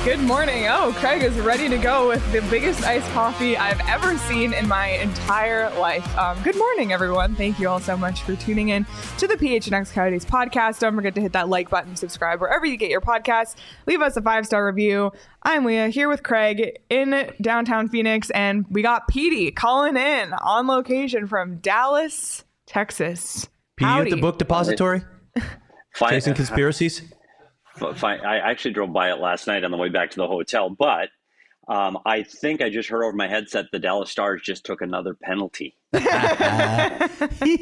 Good morning. Oh, Craig is ready to go with the biggest iced coffee I've ever seen in my entire life. Good morning, everyone. Thank you all so much for tuning in to the PHNX Coyotes podcast. Don't forget to hit that like button, subscribe wherever you get your podcasts. Leave us a 5-star review. I'm Leah here with Craig in downtown Phoenix, and we got Petey calling in on location from Dallas, Texas. Petey at the book depository? Chasing conspiracies? Fine. I actually drove by it last night on the way back to the hotel, but I think I just heard over my headset the Dallas Stars just took another penalty. As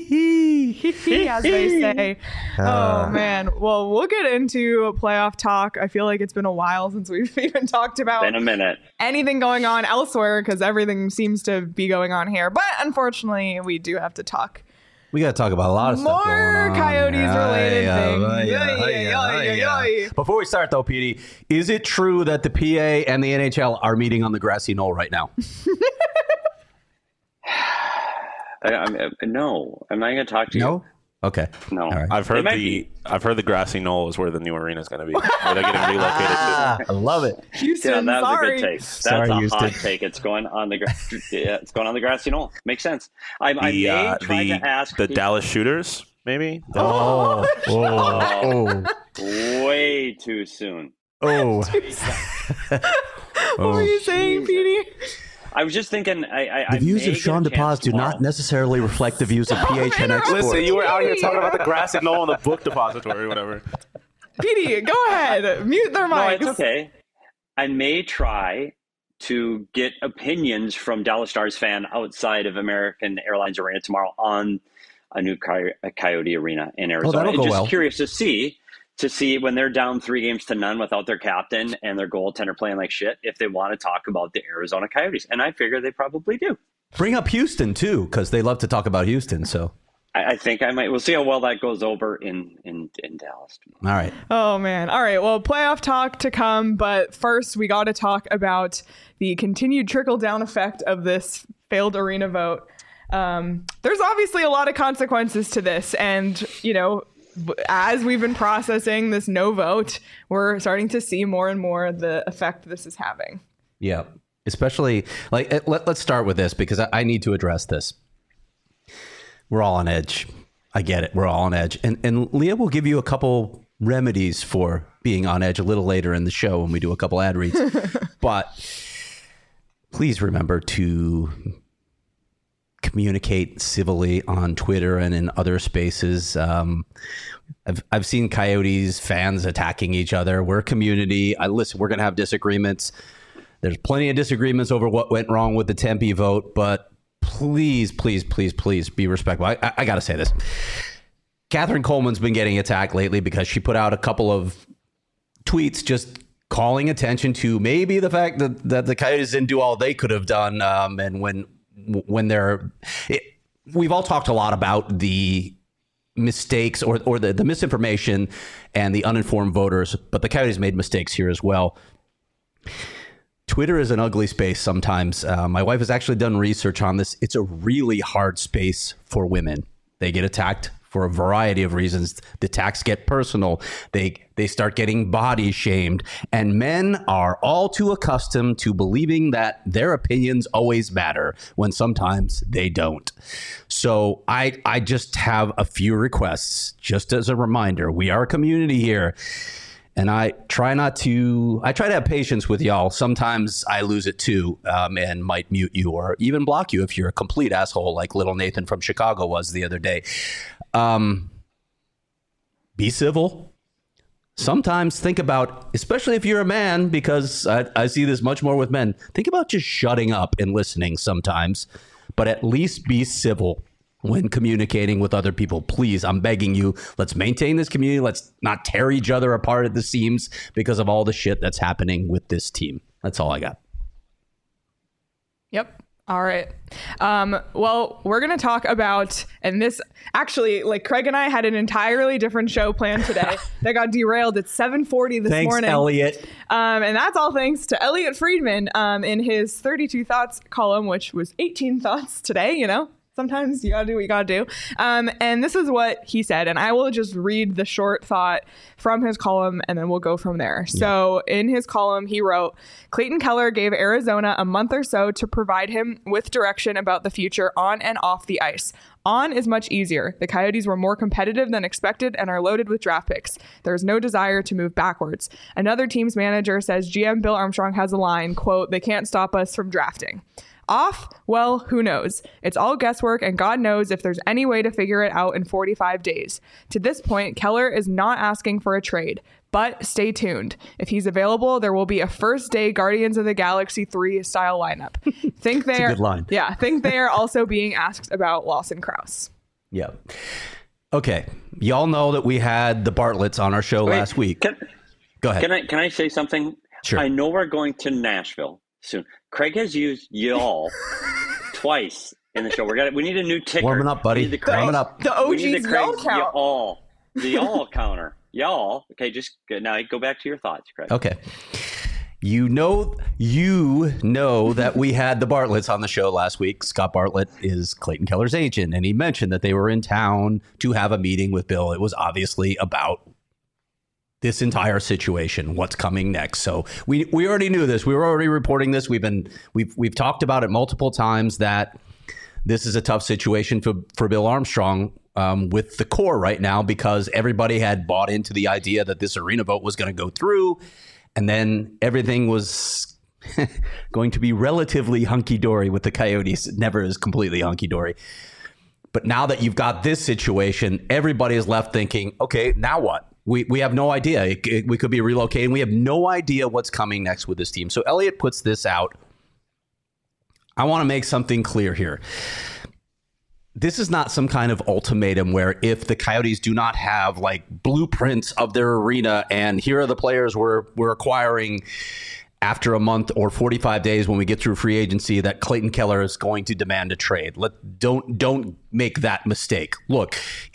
they say. Oh, man. Well, we'll get into playoff talk. I feel like it's been a while since we've even talked about anything going on elsewhere because everything seems to be going on here. But unfortunately, we do have to talk. We got to talk about a lot of stuff going on. More Coyotes-related things. Before we start, though, Petey, is it true that the PA and the NHL are meeting on the grassy knoll right now? No, I'm not going to talk to you. No? Okay. No. All right. I've heard the grassy knoll is where the new arena is going to be. Where they're getting relocated to. I love it. Houston, that was sorry. a good take. That's a hot take. It's going on the it's going on the grassy knoll. Makes sense. I may try to ask the Dallas Shooters, maybe. Way too soon. Oh. What were you saying, Petey? I was just thinking. The views of Sean DePaz do not necessarily reflect the views of PHNX Sports. Listen, you were out here talking about the grassy knoll and the book depository or whatever. Petey, go ahead. Mute their mics. No, it's okay. I may try to get opinions from Dallas Stars fan outside of American Airlines Arena tomorrow on a new Coyote Arena in Arizona. That'll go well. Curious to see when they're down 3-0 without their captain and their goaltender playing like shit, if they want to talk about the Arizona Coyotes. And I figure they probably do. Bring up Houston, too, because they love to talk about Houston. So I think I might. We'll see how well that goes over in Dallas. All right. Oh, man. All right. Well, playoff talk to come. But first, we got to talk about the continued trickle-down effect of this failed arena vote. There's obviously a lot of consequences to this. And, you know, as we've been processing this no vote, we're starting to see more and more the effect this is having. Yeah. Especially, let's start with this because I need to address this. We're all on edge. I get it. We're all on edge. And Leah will give you a couple remedies for being on edge a little later in the show when we do a couple ad reads. But please remember to communicate civilly on Twitter and in other spaces. I've seen Coyotes fans attacking each other. We're a community. Listen, we're going to have disagreements. There's plenty of disagreements over what went wrong with the Tempe vote, but please, please, please, please be respectful. I got to say this. Catherine Coleman's been getting attacked lately because she put out a couple of tweets just calling attention to maybe the fact that the Coyotes didn't do all they could have done. And when we've all talked a lot about the mistakes or the misinformation and the uninformed voters, but the Coyotes made mistakes here as well. Twitter is an ugly space sometimes. My wife has actually done research on this. It's a really hard space for women. They get attacked for a variety of reasons. The attacks get personal. They start getting body shamed. And men are all too accustomed to believing that their opinions always matter when sometimes they don't. So I just have a few requests. Just as a reminder, we are a community here. And I try to have patience with y'all. Sometimes I lose it too, and might mute you or even block you if you're a complete asshole like little Nathan from Chicago was the other day. Be civil. Sometimes think about, especially if you're a man, because I see this much more with men, think about just shutting up and listening sometimes, but at least be civil when communicating with other people. Please, I'm begging you, let's maintain this community. Let's not tear each other apart at the seams because of all the shit that's happening with this team. That's all I got. Yep. All right. Well, we're going to talk about, and this actually, like Craig and I had an entirely different show planned today that got derailed at 7:40 this morning. Thanks, Elliot. And that's all thanks to Elliot Friedman in his 32 Thoughts column, which was 18 thoughts today, you know. sometimes you gotta do what you gotta do. And this is what he said, and I will just read the short thought from his column and then we'll go from there. Yeah. So in his column, he wrote, Clayton Keller gave Arizona a month or so to provide him with direction about the future on and off the ice. On is much easier. The Coyotes were more competitive than expected and are loaded with draft picks. There's no desire to move backwards. Another team's manager says GM Bill Armstrong has a line, quote, they can't stop us from drafting. Off? Well, who knows? It's all guesswork, and God knows if there's any way to figure it out in 45 days. To this point, Keller is not asking for a trade, but stay tuned. If he's available, there will be a first-day Guardians of the Galaxy 3 style lineup. Think they are, good line. Yeah, think they are also being asked about Lawson Crouse. Yeah. Okay. Y'all know that we had the Bartletts on our show last week. Go ahead. Can I say something? Sure. I know we're going to Nashville soon. Craig has used y'all twice in the show. We need a new ticker. Warming up, buddy. Warming up. The OG's y'all count. Y'all. The y'all counter. Y'all. Okay, just now go back to your thoughts, Craig. Okay. You know that we had the Bartletts on the show last week. Scott Bartlett is Clayton Keller's agent, and he mentioned that they were in town to have a meeting with Bill. It was obviously about this entire situation, what's coming next. So we already knew this. We were already reporting this. We've talked about it multiple times that this is a tough situation for Bill Armstrong with the core right now, because everybody had bought into the idea that this arena vote was going to go through, and then everything was going to be relatively hunky-dory with the Coyotes. It never is completely hunky-dory. But now that you've got this situation, everybody is left thinking, okay, now what? We have no idea. We could be relocating. We have no idea what's coming next with this team. So Elliot puts this out. I want to make something clear here. This is not some kind of ultimatum where if the Coyotes do not have like blueprints of their arena and here are the players we're acquiring after a month or 45 days when we get through free agency, that Clayton Keller is going to demand a trade. Don't make that mistake. Look,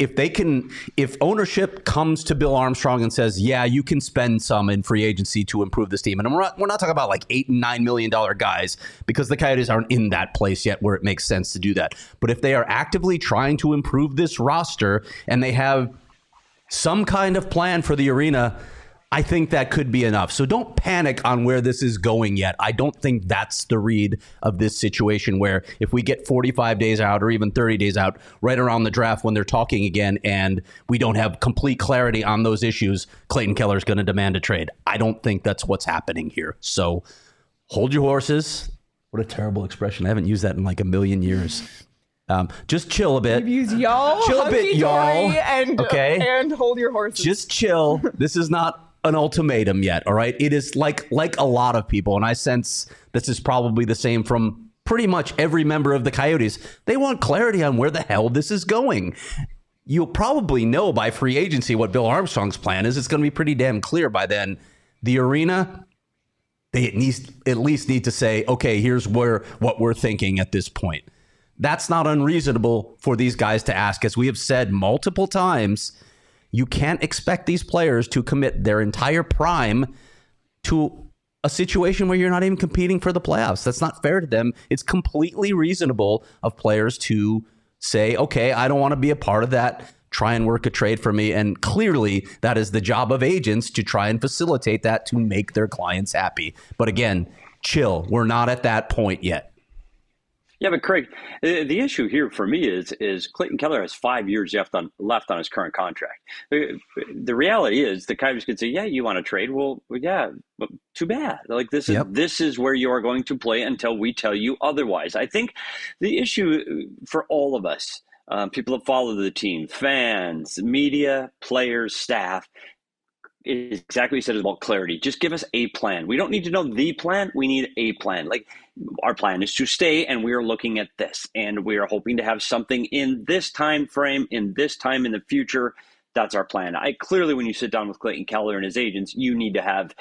if ownership comes to Bill Armstrong and says, yeah, you can spend some in free agency to improve this team. And we're not talking about like $8 and $9 million guys, because the Coyotes aren't in that place yet where it makes sense to do that. But if they are actively trying to improve this roster and they have some kind of plan for the arena, I think that could be enough. So don't panic on where this is going yet. I don't think that's the read of this situation, where if we get 45 days out or even 30 days out, right around the draft when they're talking again and we don't have complete clarity on those issues, Clayton Keller is going to demand a trade. I don't think that's what's happening here. So hold your horses. What a terrible expression. I haven't used that in like a million years. Just chill a bit. You've used y'all, chill a bit, y'all, and hold your horses. Just chill. This is not an ultimatum yet, all right? It is like a lot of people, and I sense this is probably the same from pretty much every member of the Coyotes. They want clarity on where the hell this is going. You'll probably know by free agency what Bill Armstrong's plan is. It's going to be pretty damn clear by then. The arena, they at least need to say, okay, here's what we're thinking at this point. That's not unreasonable for these guys to ask. As we have said multiple times, you can't expect these players to commit their entire prime to a situation where you're not even competing for the playoffs. That's not fair to them. It's completely reasonable of players to say, okay, I don't want to be a part of that. Try and work a trade for me. And clearly that is the job of agents, to try and facilitate that to make their clients happy. But again, chill. We're not at that point yet. Yeah, but Craig, the issue here for me is Clayton Keller has 5 years left on his current contract. The reality is the Coyotes could say, yeah, you want to trade? Well, yeah, but too bad. Like this is where you are going to play until we tell you otherwise. I think the issue for all of us, people that follow the team, fans, media, players, staff, is exactly what you said, about clarity. Just give us a plan. We don't need to know the plan. We need a plan. Like, our plan is to stay, and we are looking at this, and we are hoping to have something in this time frame, in this time in the future. That's our plan. Clearly, when you sit down with Clayton Keller and his agents, you need to have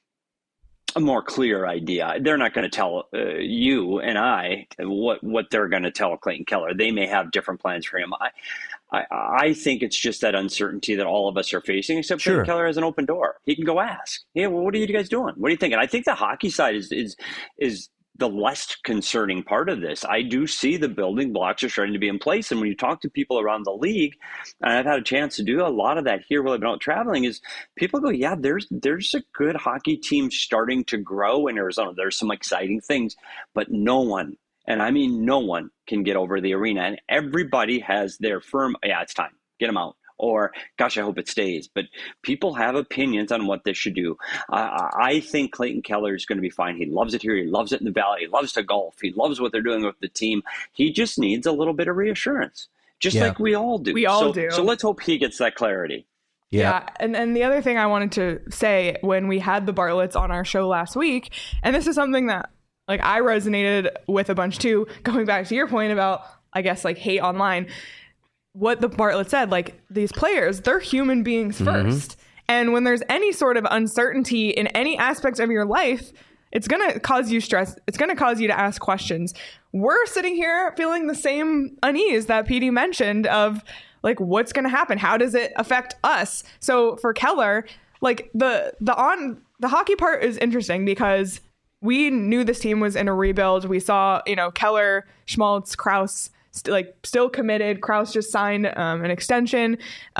a more clear idea. They're not going to tell you and I what they're going to tell Clayton Keller. They may have different plans for him. I think it's just that uncertainty that all of us are facing, except Sure. Clayton Keller has an open door. He can go ask, hey, well, what are you guys doing? What are you thinking? I think the hockey side is the less concerning part of this. I do see the building blocks are starting to be in place. And when you talk to people around the league, and I've had a chance to do a lot of that here while I've been out traveling, is people go, yeah, there's a good hockey team starting to grow in Arizona. There's some exciting things, but no one, and I mean no one, can get over the arena. And everybody has their firm, yeah, it's time, get them out. Or, gosh, I hope it stays. But people have opinions on what they should do. I think Clayton Keller is going to be fine. He loves it here. He loves it in the Valley. He loves to golf. He loves what they're doing with the team. He just needs a little bit of reassurance, just like we all do. We all do. So let's hope he gets that clarity. Yeah. And the other thing I wanted to say when we had the Bartletts on our show last week, and this is something that like I resonated with a bunch too, going back to your point about, I guess, like hate online. What the Bartlett said, like these players, they're human beings first. And when there's any sort of uncertainty in any aspect of your life, it's going to cause you stress. It's going to cause you to ask questions. We're sitting here feeling the same unease that PD mentioned of like, what's going to happen? How does it affect us? So for Keller, like the hockey part is interesting because we knew this team was in a rebuild. We saw, Keller, Schmaltz, Krause, still committed. Krause just signed an extension.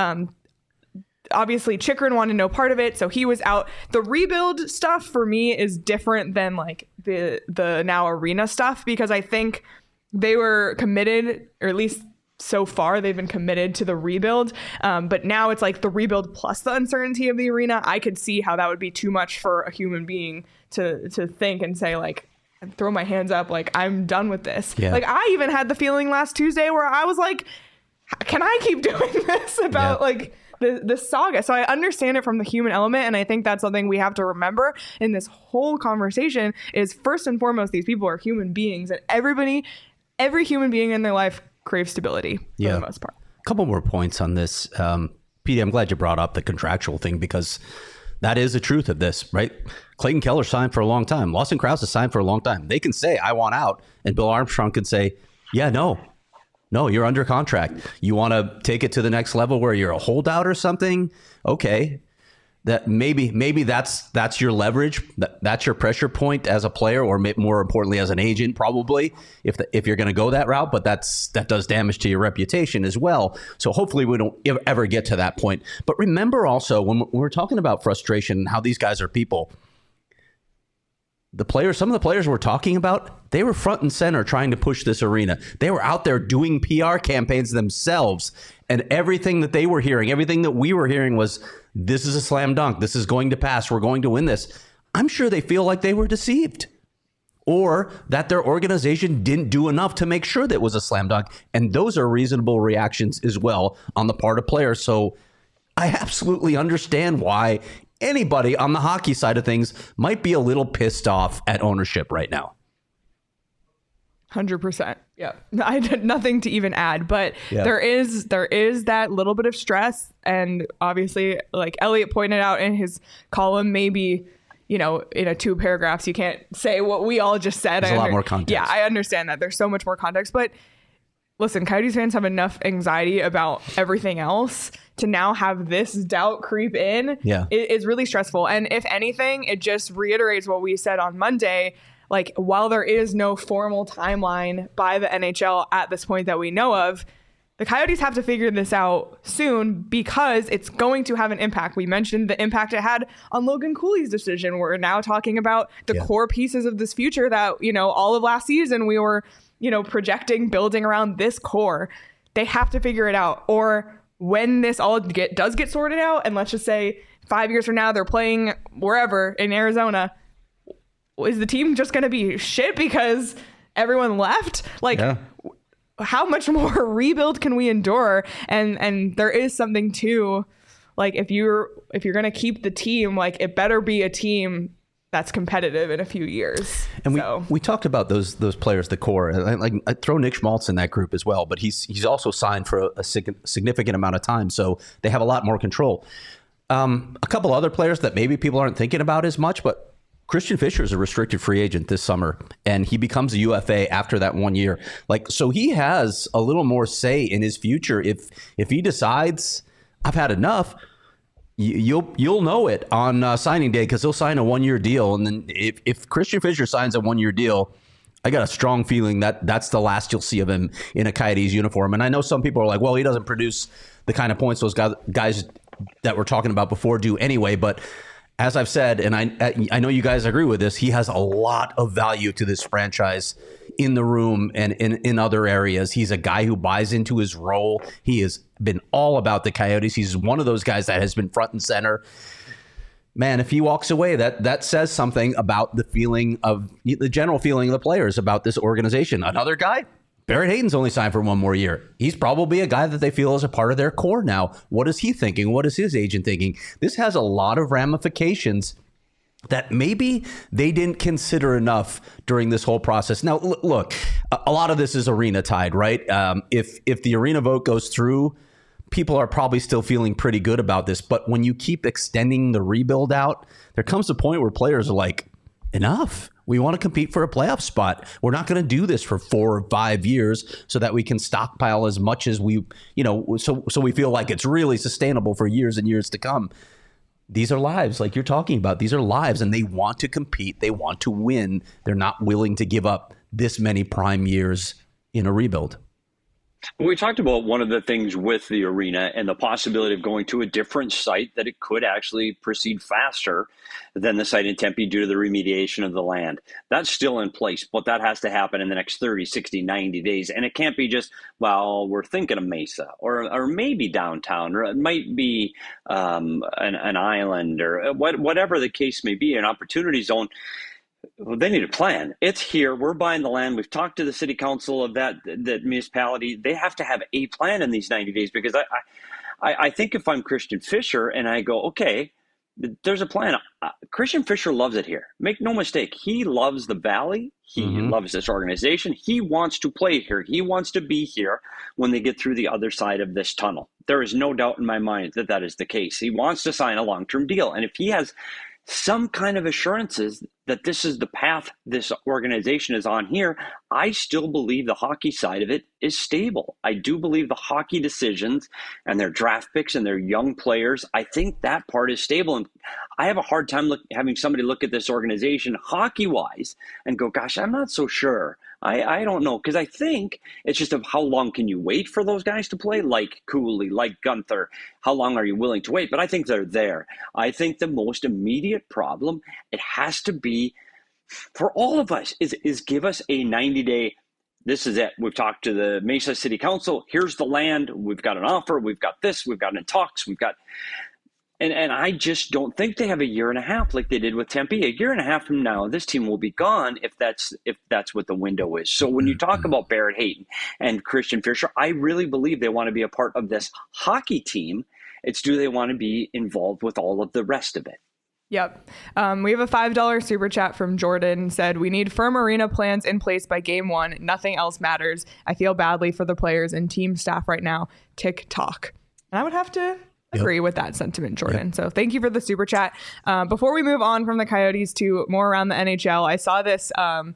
Obviously, Chychrun wanted no part of it, so he was out. The rebuild stuff for me is different than like the now arena stuff because I think they were committed, or at least so far they've been committed to the rebuild. But now it's like the rebuild plus the uncertainty of the arena. I could see how that would be too much for a human being to think and say like, throw my hands up, like I'm done with this. Yeah. Like I even had the feeling last Tuesday where I was like, can I keep doing this about like this saga? So I understand it from the human element, and I think that's something we have to remember in this whole conversation is first and foremost, these people are human beings, and every human being in their life craves stability for the most part. A couple more points on this. Petey, I'm glad you brought up the contractual thing because that is the truth of this, right? Clayton Keller signed for a long time. Lawson Krause has signed for a long time. They can say, I want out. And Bill Armstrong can say, yeah, no, you're under contract. You want to take it to the next level where you're a holdout or something? Okay. That maybe that's your leverage. That's your pressure point as a player, or more importantly, as an agent, probably if you're going to go that route. But that does damage to your reputation as well. So hopefully we don't ever get to that point. But remember also when we're talking about frustration and how these guys are people, some of the players we're talking about, they were front and center trying to push this arena. They were out there doing PR campaigns themselves, and everything that they were hearing, everything that we were hearing was, this is a slam dunk. This is going to pass. We're going to win this. I'm sure they feel like they were deceived, or that their organization didn't do enough to make sure that it was a slam dunk. And those are reasonable reactions as well on the part of players. So I absolutely understand why anybody on the hockey side of things might be a little pissed off at ownership right now. 100%. Yeah. I had nothing to even add, but there is that little bit of stress. And obviously, like Elliot pointed out in his column, maybe, in a 2 paragraphs, you can't say what we all just said. There's a lot more context. Yeah, I understand that. There's so much more context, but listen, Coyotes fans have enough anxiety about everything else to now have this doubt creep in. Yeah. Is really stressful. And if anything, it just reiterates what we said on Monday. Like, while there is no formal timeline by the NHL at this point that we know of, the Coyotes have to figure this out soon because it's going to have an impact. We mentioned the impact it had on Logan Cooley's decision. We're now talking about the core pieces of this future that, all of last season we were, projecting, building around this core. They have to figure it out. Or when this all does get sorted out, and let's just say 5 years from now they're playing wherever in Arizona, is the team just going to be shit because everyone left? Like, how much more rebuild can we endure? And there is something to, like, if you're going to keep the team, like, it better be a team that's competitive in a few years. And we talked about those players, the core. I throw Nick Schmaltz in that group as well, but he's also signed for a significant amount of time, so they have a lot more control. A couple other players that maybe people aren't thinking about as much, but Christian Fischer is a restricted free agent this summer, and he becomes a UFA after that 1 year. So he has a little more say in his future. If he decides, I've had enough, you'll know it on signing day, because he'll sign a 1 year deal. And then if Christian Fischer signs a 1 year deal, I got a strong feeling that that's the last you'll see of him in a Coyotes uniform. And I know some people are like, well, he doesn't produce the kind of points those guys that we're talking about before do anyway. But as I've said, and I know you guys agree with this, he has a lot of value to this franchise in the room and in other areas. He's a guy who buys into his role. He has been all about the Coyotes. He's one of those guys that has been front and center. Man, if he walks away, that says something about the general feeling of the players about this organization. Another guy, Barrett Hayton's only signed for one more year. He's probably a guy that they feel is a part of their core now. What is he thinking? What is his agent thinking? This has a lot of ramifications that maybe they didn't consider enough during this whole process. Now, look, a lot of this is arena tied, right? If the arena vote goes through, people are probably still feeling pretty good about this. But when you keep extending the rebuild out, there comes a point where players are like, enough. We want to compete for a playoff spot. We're not going to do this for 4 or 5 years so that we can stockpile as much as we, so we feel like it's really sustainable for years and years to come. These are lives, like you're talking about. These are lives, and they want to compete. They want to win. They're not willing to give up this many prime years in a rebuild. We talked about one of the things with the arena and the possibility of going to a different site, that it could actually proceed faster than the site in Tempe due to the remediation of the land. That's still in place, but that has to happen in the next 30, 60, 90 days. And it can't be just, well, we're thinking of Mesa or maybe downtown, or it might be an island, or whatever the case may be, an opportunity zone. Well, they need a plan. It's here. We're buying the land. We've talked to the city council of that municipality. They have to have a plan in these 90 days, because I think if I'm Christian Fischer and I go, okay, there's a plan. Christian Fischer loves it here. Make no mistake. He loves the Valley. He loves this organization. He wants to play here. He wants to be here when they get through the other side of this tunnel. There is no doubt in my mind that that is the case. He wants to sign a long-term deal. And if he has some kind of assurances that this is the path this organization is on here, I still believe the hockey side of it is stable. I do believe the hockey decisions and their draft picks and their young players, I think that part is stable. And I have a hard time having somebody look at this organization hockey-wise and go, gosh, I'm not so sure. I don't know, because I think it's just of how long can you wait for those guys to play, like Cooley, like Gunther. How long are you willing to wait? But I think they're there. I think the most immediate problem, it has to be for all of us, is give us a 90-day, this is it. We've talked to the Mesa City Council. Here's the land. We've got an offer. We've got this. We've got in talks. We've got... And I just don't think they have a year and a half like they did with Tempe. A year and a half from now, this team will be gone if that's what the window is. So when you talk about Barrett Hayton and Christian Fischer, I really believe they want to be a part of this hockey team. It's, do they want to be involved with all of the rest of it? Yep. We have a $5 super chat from Jordan. Said, we need firm arena plans in place by game 1. Nothing else matters. I feel badly for the players and team staff right now. TikTok. And I would have to agree with that sentiment, Jordan. Yep. So thank you for the super chat. Before we move on from the Coyotes to more around the NHL, I saw this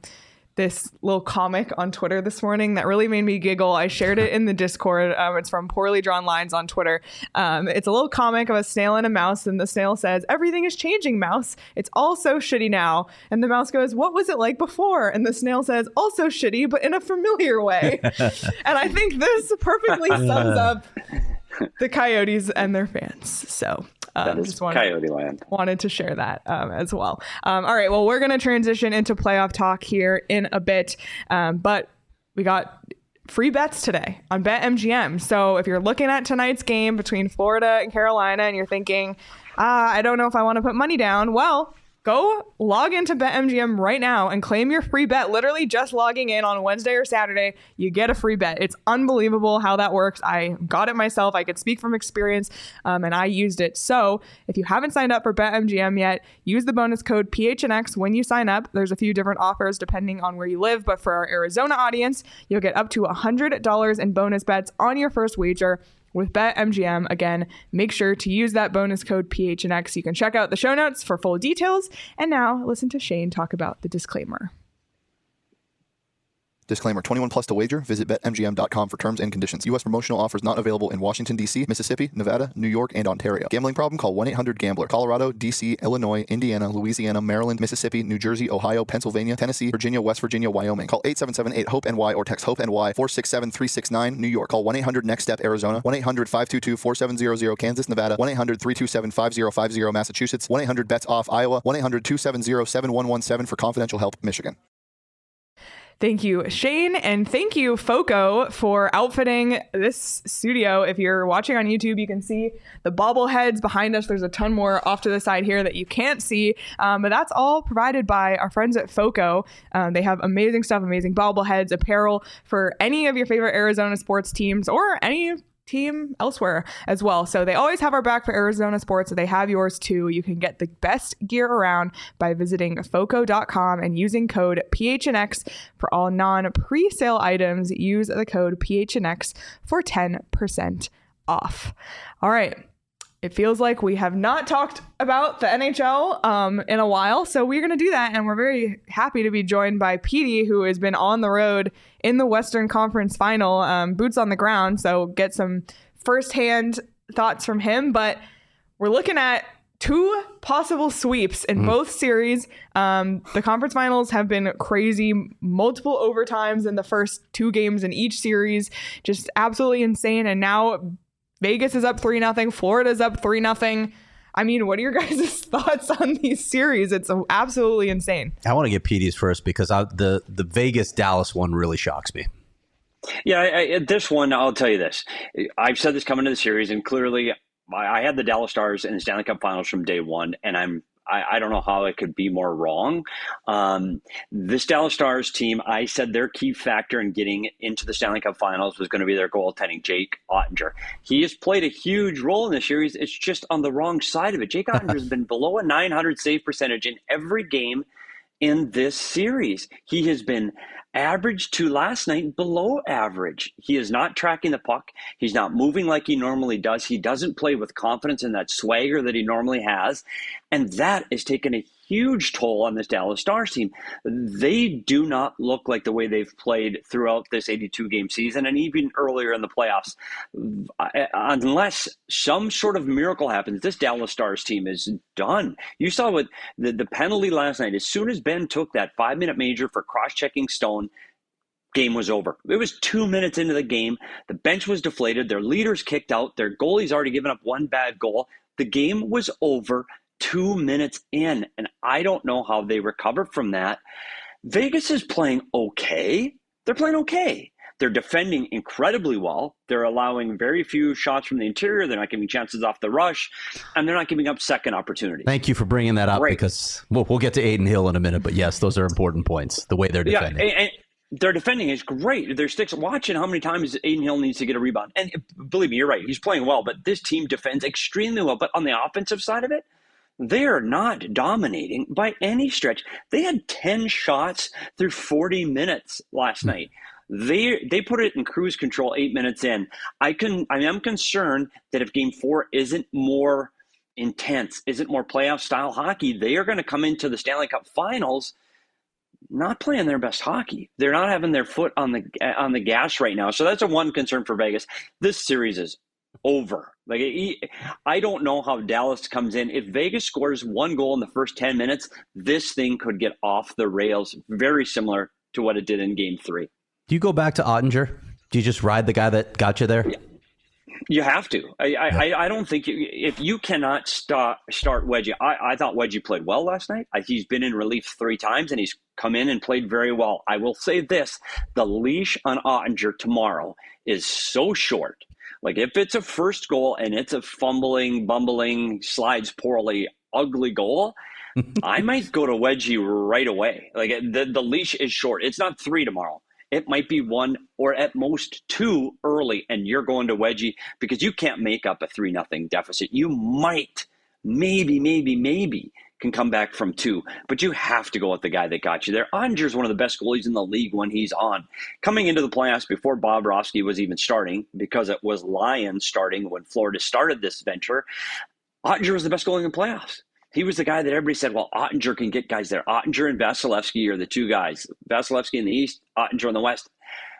this little comic on Twitter this morning that really made me giggle. I shared it in the Discord. It's from Poorly Drawn Lines on Twitter. It's a little comic of a snail and a mouse, and the snail says, "Everything is changing, mouse. It's all so shitty now." And the mouse goes, "What was it like before?" And the snail says, "Also shitty, but in a familiar way." And I think this perfectly sums up the Coyotes and their fans. So just Coyote land. Wanted to share that as well. All right, well, we're going to transition into playoff talk here in a bit, but we got free bets today on BetMGM. So if you're looking at tonight's game between Florida and Carolina and you're thinking, I don't know if I want to put money down, well, go log into BetMGM right now and claim your free bet. Literally just logging in on Wednesday or Saturday, you get a free bet. It's unbelievable how that works. I got it myself. I could speak from experience, and I used it. So if you haven't signed up for BetMGM yet, use the bonus code PHNX when you sign up. There's a few different offers depending on where you live, but for our Arizona audience, you'll get up to $100 in bonus bets on your first wager with BetMGM. Again, make sure to use that bonus code PHNX. You can check out the show notes for full details. And now listen to Shane talk about the disclaimer. Disclaimer, 21 plus to wager. Visit BetMGM.com for terms and conditions. U.S. promotional offers not available in Washington, D.C., Mississippi, Nevada, New York, and Ontario. Gambling problem? Call 1-800-GAMBLER. Colorado, D.C., Illinois, Indiana, Louisiana, Maryland, Mississippi, New Jersey, Ohio, Pennsylvania, Tennessee, Virginia, West Virginia, Wyoming. Call 877-8-HOPE-NY or text HOPE-NY 467-369. New York. Call 1-800-NEXT-STEP, Arizona. 1-800-522-4700, Kansas, Nevada. 1-800-327-5050, Massachusetts. 1-800-BETS-OFF, Iowa. 1-800-270-7117 for confidential help, Michigan. Thank you, Shane, and thank you, Foco, for outfitting this studio. If you're watching on YouTube, you can see the bobbleheads behind us. There's a ton more off to the side here that you can't see, but that's all provided by our friends at Foco. They have amazing stuff, amazing bobbleheads, apparel for any of your favorite Arizona sports teams or any team elsewhere as well. So they always have our back for Arizona sports. So they have yours too. You can get the best gear around by visiting foco.com and using code PHNX for all non-presale items. Use the code PHNX for 10% off. All right. It feels like we have not talked about the NHL in a while, so we're going to do that, and we're very happy to be joined by Petey, who has been on the road in the Western Conference Final, boots on the ground, so get some firsthand thoughts from him. But we're looking at two possible sweeps in both series. The conference finals have been crazy, multiple overtimes in the first two games in each series, just absolutely insane, and now Vegas is up 3-0. Florida's up 3-0. I mean, what are your guys' thoughts on these series? It's absolutely insane. I want to get Petey's first because the Vegas-Dallas one really shocks me. Yeah, this one, I'll tell you this. I've said this coming to the series, and clearly I had the Dallas Stars in the Stanley Cup Finals from day one, and I don't know how it could be more wrong. This Dallas Stars team, I said their key factor in getting into the Stanley Cup Finals was going to be their goaltending, Jake Oettinger. He has played a huge role in this series. It's just on the wrong side of it. Jake Oettinger has been below a .900 save percentage in every game in this series. He has been average to last night below average. He is not tracking the puck. He's not moving like he normally does. He doesn't play with confidence and that swagger that he normally has. And that is taking a huge toll on this Dallas Stars team. They do not look like the way they've played throughout this 82-game season and even earlier in the playoffs. Unless some sort of miracle happens, this Dallas Stars team is done. You saw what the penalty last night. As soon as Ben took that 5-minute major for cross-checking Stone, game was over. It was 2 minutes into the game. The bench was deflated. Their leaders kicked out. Their goalie's already given up one bad goal. The game was over 2 minutes in, and I don't know how they recovered from that. Vegas is playing okay. They're playing okay. They're defending incredibly well. They're allowing very few shots from the interior. They're not giving chances off the rush, and they're not giving up second opportunities. Thank you for bringing that up because we'll get to Adin Hill in a minute, but yes, those are important points, the way they're defending. Yeah, and their defending is great. Their sticks, watching how many times Adin Hill needs to get a rebound. And believe me, you're right. He's playing well, but this team defends extremely well. But on the offensive side of it, they're not dominating by any stretch. They had 10 shots through 40 minutes last night. They put it in cruise control 8 minutes in. I am concerned that if Game 4 isn't more intense, isn't more playoff style hockey, they are going to come into the Stanley Cup Finals not playing their best hockey. They're not having their foot on the gas right now. So that's a one concern for Vegas. This series is over. I don't know how Dallas comes in. If Vegas scores one goal in the first 10 minutes, this thing could get off the rails, very similar to what it did in Game 3. Do you go back to Oettinger? Do you just ride the guy that got you there? Yeah. You have to. I don't think if you cannot start Wedgie. I thought Wedgie played well last night. He's been in relief 3 times, and he's come in and played very well. I will say this. The leash on Oettinger tomorrow is so short. Like, if it's a first goal and it's a fumbling, bumbling, slides poorly, ugly goal, I might go to Wedgie right away. Like, the leash is short. It's not 3 tomorrow. It might be 1 or at most 2 early, and you're going to Wedgie because you can't make up a 3-0 deficit. You might, maybe can come back from 2, but you have to go with the guy that got you there. Ottinger's one of the best goalies in the league when he's on. Coming into the playoffs before Bobrovsky was even starting, because it was Lions starting when Florida started this venture, Oettinger was the best goalie in the playoffs. He was the guy that everybody said, well, Ottinger can get guys there. Ottinger and Vasilevsky are the two guys. Vasilevsky in the East, Ottinger in the West.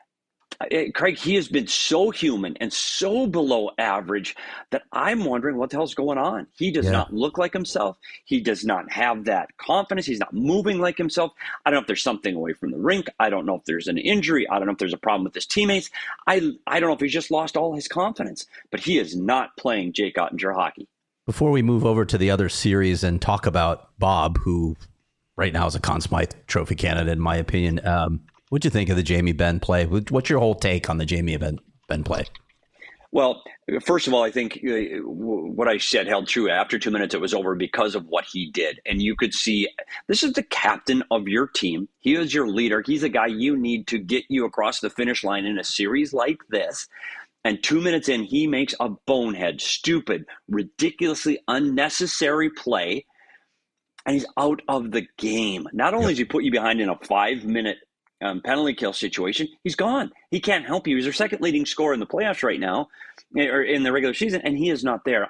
Craig, he has been so human and so below average that I'm wondering what the hell's going on. He does not look like himself. He does not have that confidence. He's not moving like himself. I don't know if there's something away from the rink. I don't know if there's an injury. I don't know if there's a problem with his teammates. I don't know if he's just lost all his confidence, but he is not playing Jake Ottinger hockey. Before we move over to the other series and talk about Bob, who right now is a Conn Smythe Trophy candidate, in my opinion, what'd you think of the Jamie Benn play? What's your whole take on the Jamie Benn play? Well, first of all, I think what I said held true. After 2 minutes, it was over because of what he did. And you could see this is the captain of your team. He is your leader. He's a guy you need to get you across the finish line in a series like this. And 2 minutes in, he makes a bonehead, stupid, ridiculously unnecessary play. And he's out of the game. Not only does he put you behind in a 5-minute penalty kill situation, he's gone. He can't help you. He's their second leading scorer in the playoffs right now, or in the regular season, and he is not there.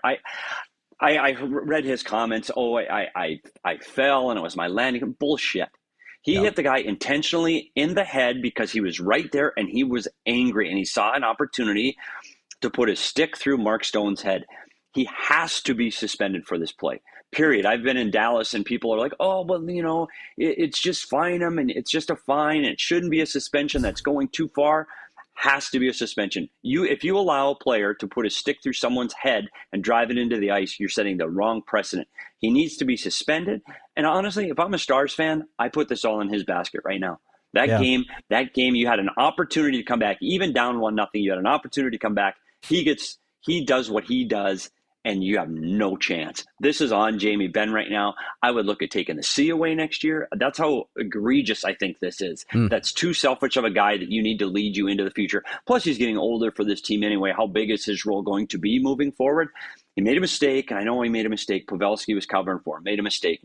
I read his comments. Oh, I fell and it was my landing. Bullshit. He hit the guy intentionally in the head because he was right there and he was angry and he saw an opportunity to put his stick through Mark Stone's head. He has to be suspended for this play. Period. I've been in Dallas and people are like, oh, well, you know, it's just fine him and it's just a fine. And it shouldn't be a suspension that's going too far. Has to be a suspension. If you allow a player to put a stick through someone's head and drive it into the ice, you're setting the wrong precedent. He needs to be suspended. And honestly, if I'm a Stars fan, I put this all in his basket right now. That game, you had an opportunity to come back, even down 1-0. You had an opportunity to come back. He does what he does, and you have no chance. This is on Jamie Benn right now. I would look at taking the C away next year. That's how egregious I think this is. That's too selfish of a guy that you need to lead you into the future. Plus, he's getting older for this team anyway. How big is his role going to be moving forward? He made a mistake, and I know he made a mistake. Pavelski was covering for him. Made a mistake.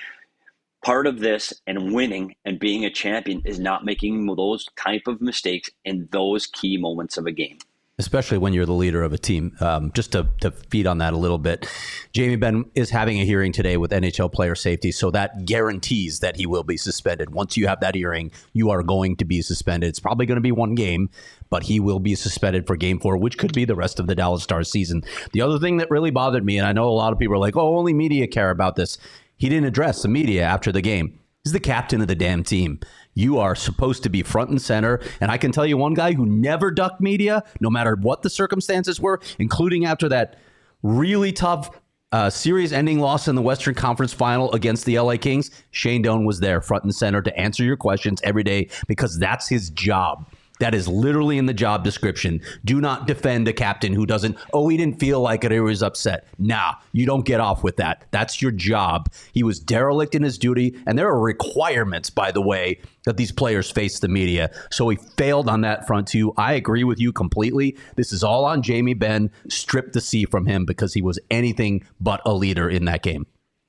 Part of this and winning and being a champion is not making those type of mistakes in those key moments of a game. Especially when you're the leader of a team. Just to feed on that a little bit, Jamie Benn is having a hearing today with NHL player safety, so that guarantees that he will be suspended. Once you have that hearing, you are going to be suspended. It's probably going to be one game, but he will be suspended for Game 4, which could be the rest of the Dallas Stars season. The other thing that really bothered me, and I know a lot of people are like, oh, only media care about this. He didn't address the media after the game. He's the captain of the damn team. You are supposed to be front and center. And I can tell you one guy who never ducked media, no matter what the circumstances were, including after that really tough series-ending loss in the Western Conference Final against the LA Kings. Shane Doan was there front and center to answer your questions every day because that's his job. That is literally in the job description. Do not defend a captain who doesn't, he didn't feel like it, or he was upset. Nah, you don't get off with that. That's your job. He was derelict in his duty, and there are requirements, by the way, that these players face the media. So he failed on that front too. I agree with you completely. This is all on Jamie Benn. Strip the C from him because he was anything but a leader in that game.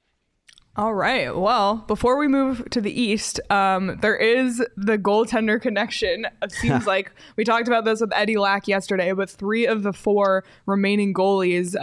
All right. Well, before we move to the East, there is the goaltender connection. It seems like we talked about this with Eddie Lack yesterday, but 3 of the 4 remaining goalies,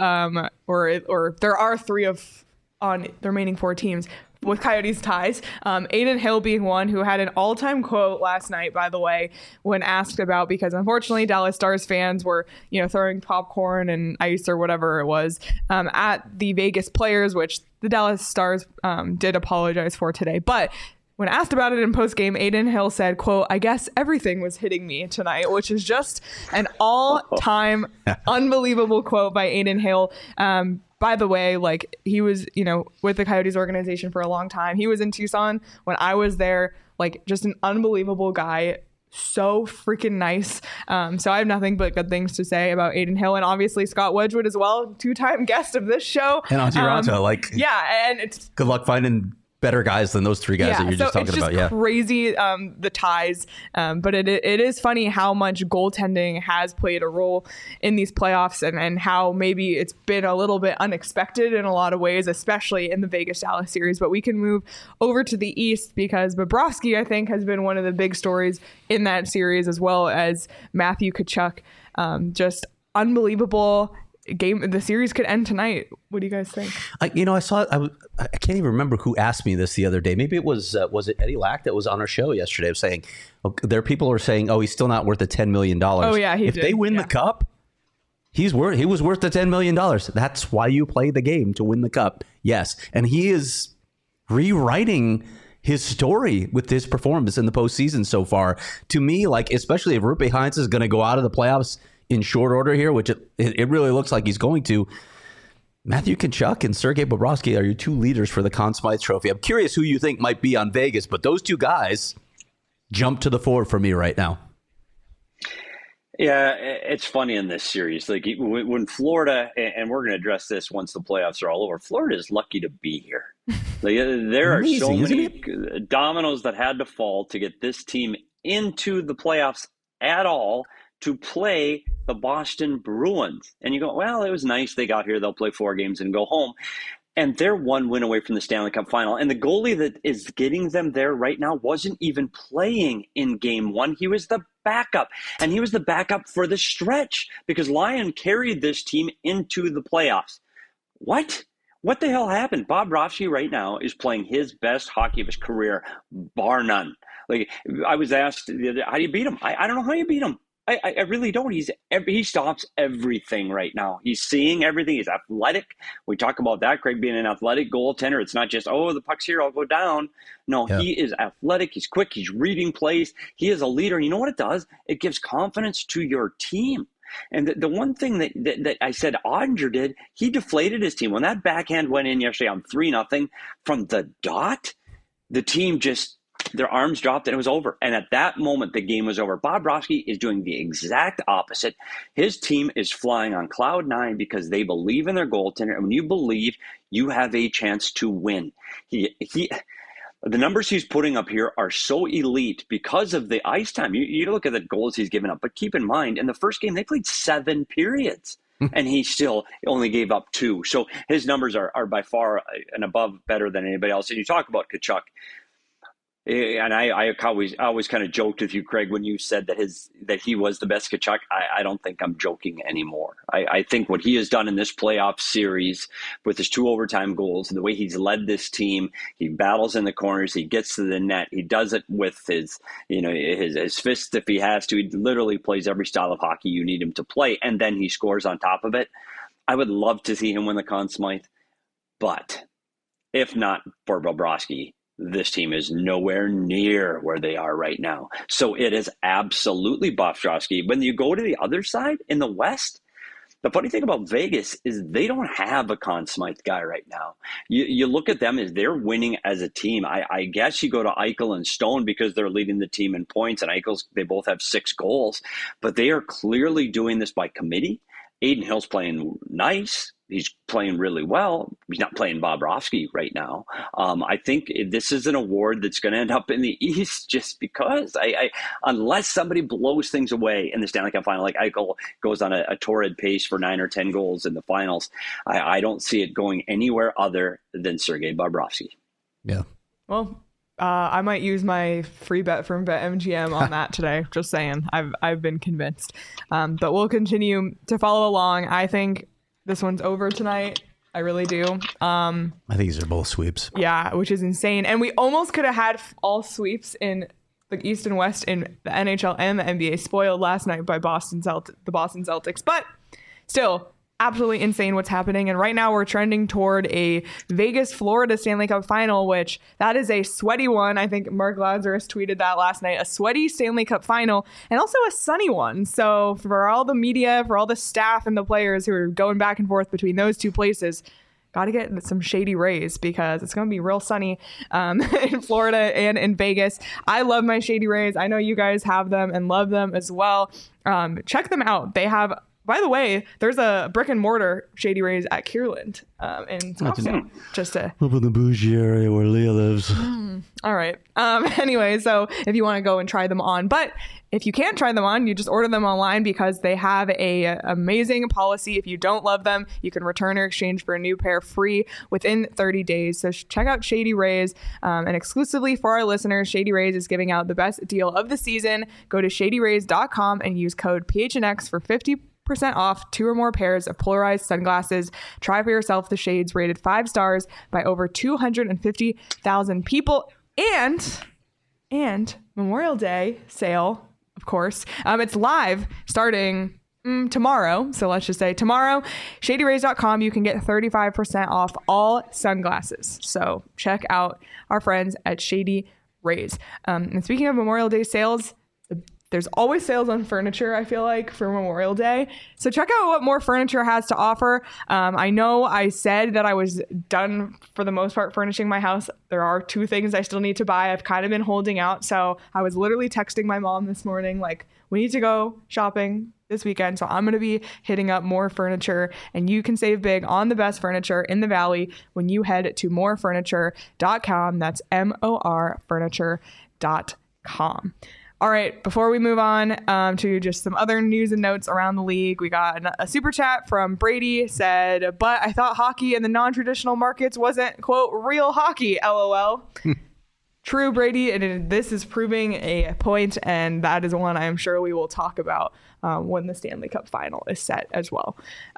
or there are 3 on the remaining 4 teams with Coyotes ties. Adin Hill being one who had an all-time quote last night, by the way, when asked about, because unfortunately Dallas Stars fans were, throwing popcorn and ice or whatever it was at the Vegas players, which the Dallas Stars did apologize for today. But when asked about it in postgame, Adin Hill said, quote, "I guess everything was hitting me tonight," which is just an all-time unbelievable quote by Adin Hill. By the way, he was, with the Coyotes organization for a long time. He was in Tucson when I was there, just an unbelievable guy. So freaking nice. So I have nothing but good things to say about Adin Hill, and obviously Scott Wedgwood as well, 2-time guest of this show. And Antti Raanta, and it's good luck finding better guys than those 3 guys that you're just talking about. Yeah, crazy the ties, but it is funny how much goaltending has played a role in these playoffs, and how maybe it's been a little bit unexpected in a lot of ways, especially in the Vegas-Dallas series. But we can move over to the East because Bobrovsky, I think, has been one of the big stories in that series, as well as Matthew Tkachuk. Just unbelievable. the series could end tonight. What do you guys think? I can't even remember who asked me this the other day. Maybe it was it Eddie Lack that was on our show yesterday. I was saying, people are saying, he's still not worth the $10 million. Oh yeah, if they win the cup, he was worth the $10 million. That's why you play the game, to win the cup. Yes, and he is rewriting his story with his performance in the postseason so far. To me, especially if Roope Hintz is going to go out of the playoffs in short order here, which it really looks like he's going to, Matthew Tkachuk and Sergei Bobrovsky are your two leaders for the Conn Smythe Trophy. I'm curious who you think might be on Vegas, but those two guys jump to the fore for me right now. Yeah, it's funny in this series. When Florida, and we're going to address this once the playoffs are all over, Florida is lucky to be here. There are so many dominoes that had to fall to get this team into the playoffs at all, to play the Boston Bruins. And you go, well, it was nice they got here. They'll play 4 games and go home. And they're 1 win away from the Stanley Cup final. And the goalie that is getting them there right now wasn't even playing in game 1. He was the backup. And he was the backup for the stretch because Lyon carried this team into the playoffs. What? What the hell happened? Bobrovsky right now is playing his best hockey of his career, bar none. I was asked, how do you beat him? I don't know how you beat him. I really don't. He stops everything right now. He's seeing everything. He's athletic. We talk about that, Craig, being an athletic goaltender. It's not just, the puck's here, I'll go down. No, yeah. He is athletic. He's quick. He's reading plays. He is a leader. And you know what it does? It gives confidence to your team. And the one thing that I said Ottinger did, he deflated his team. When that backhand went in yesterday on 3-0 from the dot, the team just, their arms dropped and it was over. And at that moment, the game was over. Bobrovsky is doing the exact opposite. His team is flying on cloud 9 because they believe in their goaltender. And when you believe, you have a chance to win. The numbers he's putting up here are so elite because of the ice time. You look at the goals he's given up, but keep in mind, in the first game, they played 7 periods. And he still only gave up 2. So his numbers are by far and above better than anybody else. And you talk about Tkachuk. And I always kind of joked with you, Craig, when you said that he was the best Tkachuk. I don't think I'm joking anymore. I think what he has done in this playoff series with his 2 overtime goals, the way he's led this team, he battles in the corners, he gets to the net, he does it with his fists if he has to. He literally plays every style of hockey you need him to play, and then he scores on top of it. I would love to see him win the Conn Smythe, but if not for Bobrovsky, this team is nowhere near where they are right now. So it is absolutely Bobrovsky. When you go to the other side in the West, the funny thing about Vegas is they don't have a Conn Smythe guy right now. You look at them as they're winning as a team. I guess you go to Eichel and Stone because they're leading the team in points, and they both have 6 goals. But they are clearly doing this by committee. Adin Hill's playing nice. He's playing really well. He's not playing Bobrovsky right now. I think this is an award that's going to end up in the East just because unless somebody blows things away in the Stanley Cup final, like Eichel goes on a torrid pace for 9 or 10 goals in the finals, I don't see it going anywhere other than Sergei Bobrovsky. Yeah. Well, I might use my free bet from BetMGM on that today. Just saying. I've been convinced. But we'll continue to follow along. I think this one's over tonight. I really do. I think these are both sweeps. Yeah, which is insane. And we almost could have had all sweeps in the East and West in the NHL and the NBA, spoiled last night by the Boston Celtics. But still, absolutely insane what's happening. And right now we're trending toward a Vegas-Florida Stanley Cup final, which that is a sweaty one. I think Mark Lazarus tweeted that last night. A sweaty Stanley Cup final and also a sunny one. So for all the media, for all the staff and the players who are going back and forth between those two places, got to get some Shady Rays because it's going to be real sunny in Florida and in Vegas. I love my Shady Rays. I know you guys have them and love them as well. Check them out. They have, by the way, there's a brick and mortar Shady Rays at Kierland in Scottsdale. Just up in the bougie area where Leah lives. All right. Anyway, so if you want to go and try them on, but if you can't try them on, you just order them online because they have a amazing policy. If you don't love them, you can return or exchange for a new pair free within 30 days. So check out Shady Rays. And exclusively for our listeners, Shady Rays is giving out the best deal of the season. Go to shadyrays.com and use code PHNX for 50% off 2 or more pairs of polarized sunglasses. Try for yourself the shades rated 5 stars by over 250,000 people. And Memorial Day sale, of course. It's live starting tomorrow. So let's just say tomorrow, shadyrays.com, you can get 35% off all sunglasses. So check out our friends at Shady Rays. And speaking of Memorial Day sales, there's always sales on furniture, I feel like, for Memorial Day. So check out what More Furniture has to offer. I know I said that I was done, for the most part, furnishing my house. There are 2 things I still need to buy. I've kind of been holding out. So I was literally texting my mom this morning, like, we need to go shopping this weekend. So I'm going to be hitting up More Furniture, and you can save big on the best furniture in the Valley when you head to morefurniture.com. That's morefurniture.com. All right, before we move on to just some other news and notes around the league, we got a super chat from Brady, said, but I thought hockey in the non-traditional markets wasn't, quote, real hockey, LOL. True, Brady, and this is proving a point, and that is one I'm sure we will talk about when the Stanley Cup final is set as well.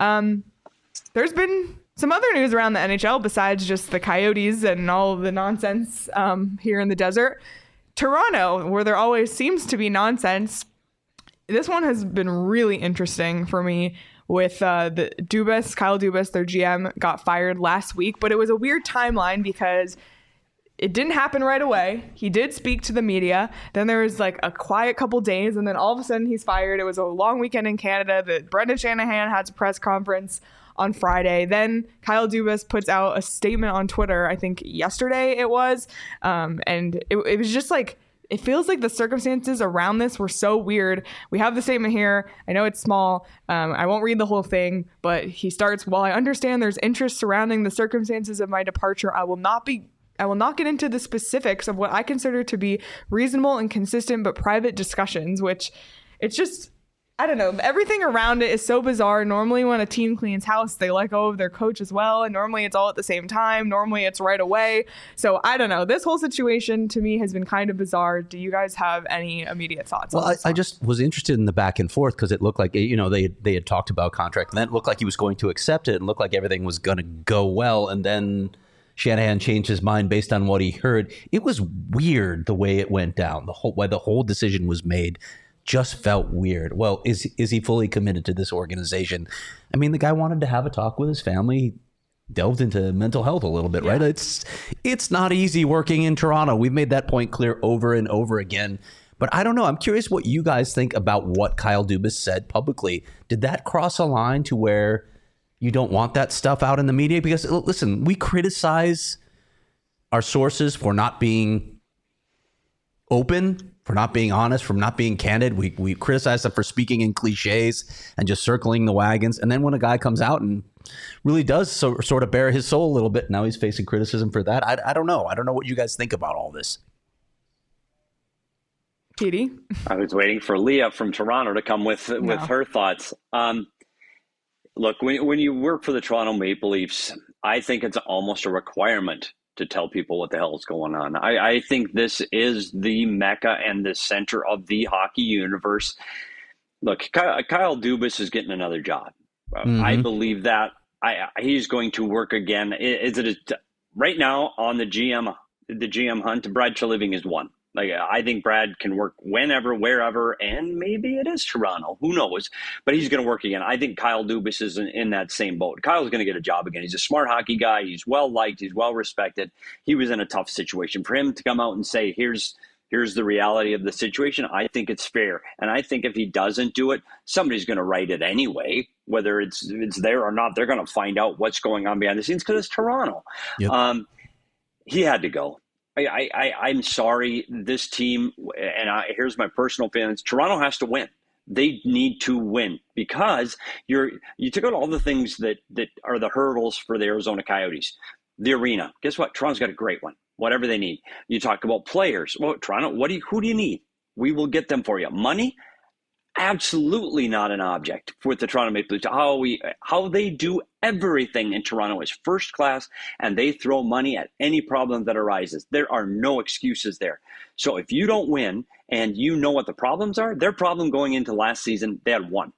There's been some other news around the NHL besides just the Coyotes and all the nonsense here in the desert. Toronto, where there always seems to be nonsense. This one has been really interesting for me with the Kyle Dubas, their GM, got fired last week, but it was a weird timeline because it didn't happen right away. He did speak to the media. Then there was like a quiet couple days, and then all of a sudden he's fired. It was a long weekend in Canada. Brendan Shanahan had a press conference on Friday. Then Kyle Dubas puts out a statement on Twitter, I think yesterday it was. And it was just like, it feels like the circumstances around this were so weird. We have the statement here. I know it's small. I won't read the whole thing, but he starts, while I understand there's interest surrounding the circumstances of my departure, I will not get into the specifics of what I consider to be reasonable and consistent but private discussions, which it's just, I don't know. Everything around it is so bizarre. Normally when a team cleans house, they let go of their coach as well. And normally it's all at the same time. Normally it's right away. So I don't know. This whole situation to me has been kind of bizarre. Do you guys have any immediate thoughts? Well, I just was interested in the back and forth because it looked like, they had talked about contract, and then it looked like he was going to accept it and looked like everything was going to go well. And then Shanahan changed his mind based on what he heard. It was weird the way it went down. The whole decision was made just felt weird. Well, is he fully committed to this organization? I mean, the guy wanted to have a talk with his family. He delved into mental health a little bit, right? It's not easy working in Toronto. We've made that point clear over and over again. But I don't know. I'm curious what you guys think about what Kyle Dubas said publicly. Did that cross a line to where you don't want that stuff out in the media? Because listen, we criticize our sources for not being open, for not being honest, for not being candid. We criticize them for speaking in cliches and just circling the wagons. And then when a guy comes out and really does sort of bare his soul a little bit, now he's facing criticism for that. I don't know. I don't know what you guys think about all this. Katie? I was waiting for Leah from Toronto to come with her thoughts. Look, when you work for the Toronto Maple Leafs, I think it's almost a requirement to tell people what the hell is going on. I think this is the mecca and the center of the hockey universe. Look, Kyle Dubas is getting another job. Mm-hmm. I believe that. He's going to work again. Right now on the GM hunt, Brad Treliving is one. Like, I think Brad can work whenever, wherever, and maybe it is Toronto. Who knows? But he's going to work again. I think Kyle Dubas is in that same boat. Kyle's going to get a job again. He's a smart hockey guy. He's well-liked. He's well-respected. He was in a tough situation. For him to come out and say, here's the reality of the situation, I think it's fair. And I think if he doesn't do it, somebody's going to write it anyway. Whether it's there or not, they're going to find out what's going on behind the scenes because it's Toronto. Yep. He had to go. I'm sorry, this team, and here's my personal feelings. Toronto has to win. They need to win because you took out all the things that are the hurdles for the Arizona Coyotes. The arena. Guess what? Toronto's got a great one. Whatever they need. You talk about players. Well, Toronto, who do you need? We will get them for you. Money? Absolutely not an object with the Toronto Maple Leafs. How they do everything in Toronto is first class, and they throw money at any problem that arises. There are no excuses there. So if you don't win and you know what the problems are, their problem going into last season, they had one.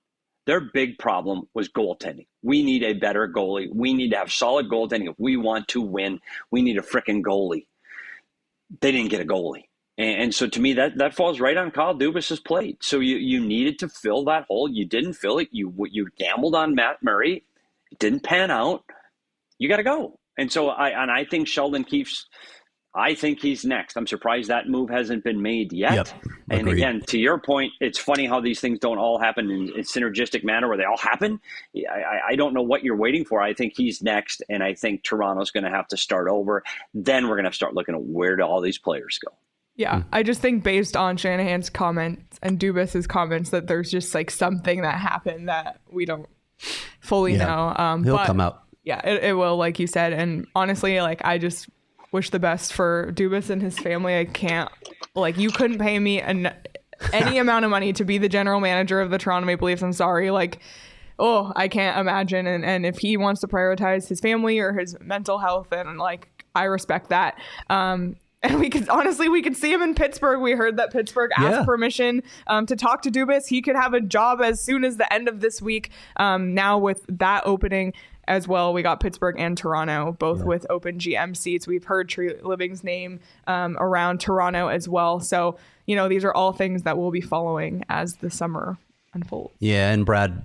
Their big problem was goaltending. We need a better goalie. We need to have solid goaltending. If we want to win, we need a freaking goalie. They didn't get a goalie. And so to me, that falls right on Kyle Dubas's plate. So you needed to fill that hole. You didn't fill it. You gambled on Matt Murray. It didn't pan out. You got to go. And so I think Sheldon Keefe's, I think he's next. I'm surprised that move hasn't been made yet. Yep, and again, to your point, it's funny how these things don't all happen in a synergistic manner where they all happen. I don't know what you're waiting for. I think he's next, and I think Toronto's going to have to start over. Then we're going to start looking at where do all these players go. Yeah, I just think based on Shanahan's comments and Dubas's comments that there's just like something that happened that we don't fully know. He'll come out. Yeah, it will, like you said. And honestly, like I just wish the best for Dubas and his family. I can't, like, you couldn't pay me any amount of money to be the general manager of the Toronto Maple Leafs. I'm sorry. Like, oh, I can't imagine. And if he wants to prioritize his family or his mental health, and like, I respect that. And we could see him in Pittsburgh. We heard that Pittsburgh asked permission to talk to Dubas. He could have a job as soon as the end of this week. Now with that opening as well, we got Pittsburgh and Toronto, both with open GM seats. We've heard Treliving's name around Toronto as well. So, these are all things that we'll be following as the summer unfolds. Yeah, and Brad,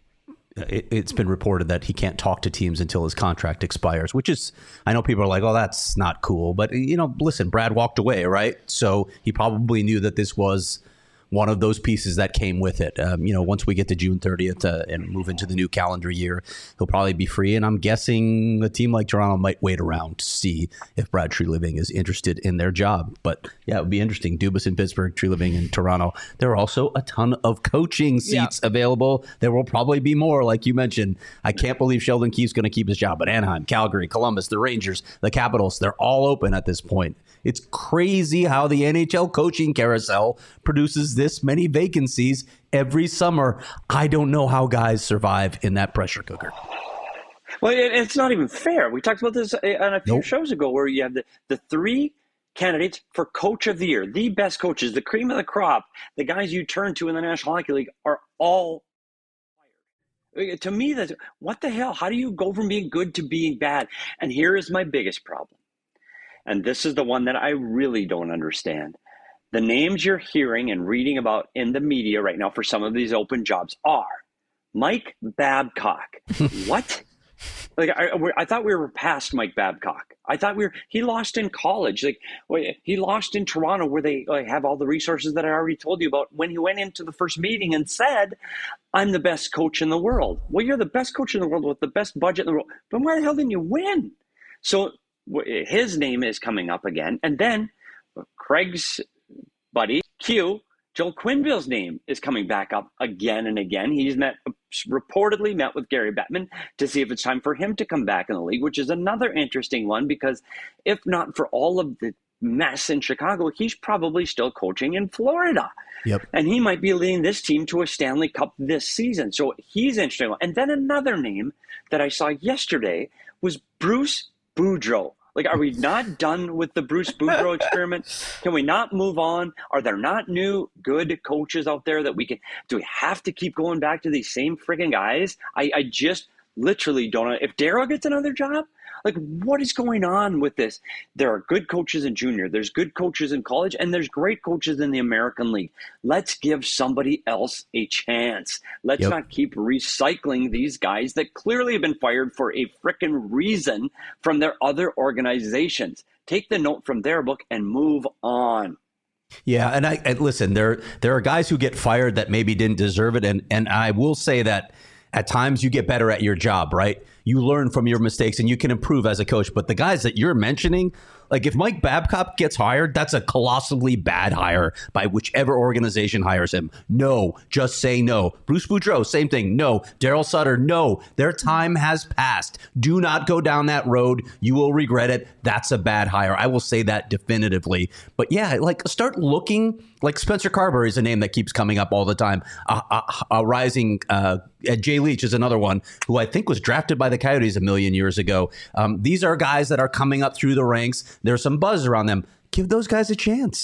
it's been reported that he can't talk to teams until his contract expires, which is, I know people are like, oh, that's not cool. But, listen, Brad walked away, right? So he probably knew that this was one of those pieces that came with it. Once we get to June 30th and move into the new calendar year, he'll probably be free. And I'm guessing a team like Toronto might wait around to see if Brad Treliving is interested in their job. But yeah, it would be interesting. Dubas in Pittsburgh, Treliving in Toronto. There are also a ton of coaching seats available. There will probably be more, like you mentioned. I can't believe Sheldon Keefe's going to keep his job. But Anaheim, Calgary, Columbus, the Rangers, the Capitals, they're all open at this point. It's crazy how the NHL coaching carousel produces this many vacancies every summer. I don't know how guys survive in that pressure cooker. Well, it's not even fair. We talked about this on a few shows ago, where you have the three candidates for coach of the year, the best coaches, the cream of the crop, the guys you turn to in the National Hockey League are all fired. To me, that's what the hell? How do you go from being good to being bad? And here is my biggest problem. And this is the one that I really don't understand. The names you're hearing and reading about in the media right now for some of these open jobs are Mike Babcock. What? Like, I thought we were past Mike Babcock. I thought he lost in college. Like, he lost in Toronto, where they have all the resources that I already told you about, when he went into the first meeting and said, I'm the best coach in the world. Well, you're the best coach in the world with the best budget in the world. But why the hell didn't you win? So his name is coming up again. And then Craig's buddy, Q, Joel Quenneville's name is coming back up again and again. He's reportedly met with Gary Bettman to see if it's time for him to come back in the league, which is another interesting one, because if not for all of the mess in Chicago, he's probably still coaching in Florida. Yep. And he might be leading this team to a Stanley Cup this season. So he's interesting. And then another name that I saw yesterday was Bruce Boudreau. Like, are we not done with the Bruce Boudreau experiment? Can we not move on? Are there not new good coaches out there that we can? Do we have to keep going back to these same friggin' guys? I just literally don't know. If Darryl gets another job, like, what is going on with this? There are good coaches in junior. There's good coaches in college, and there's great coaches in the American League. Let's give somebody else a chance. Let's not keep recycling these guys that clearly have been fired for a frickin' reason from their other organizations. Take the note from their book and move on. Yeah, and I listen, there are guys who get fired that maybe didn't deserve it, and I will say that at times you get better at your job, right? You learn from your mistakes and you can improve as a coach. But the guys that you're mentioning, like if Mike Babcock gets hired, that's a colossally bad hire by whichever organization hires him. No, just say no. Bruce Boudreau, same thing. No. Darryl Sutter, no. Their time has passed. Do not go down that road. You will regret it. That's a bad hire. I will say that definitively. But yeah, like start looking. Like Spencer Carberry is a name that keeps coming up all the time. Rising Jay Leach is another one who I think was drafted by the Coyotes a million years ago. These are guys that are coming up through the ranks. There's some buzz around them. Give those guys a chance.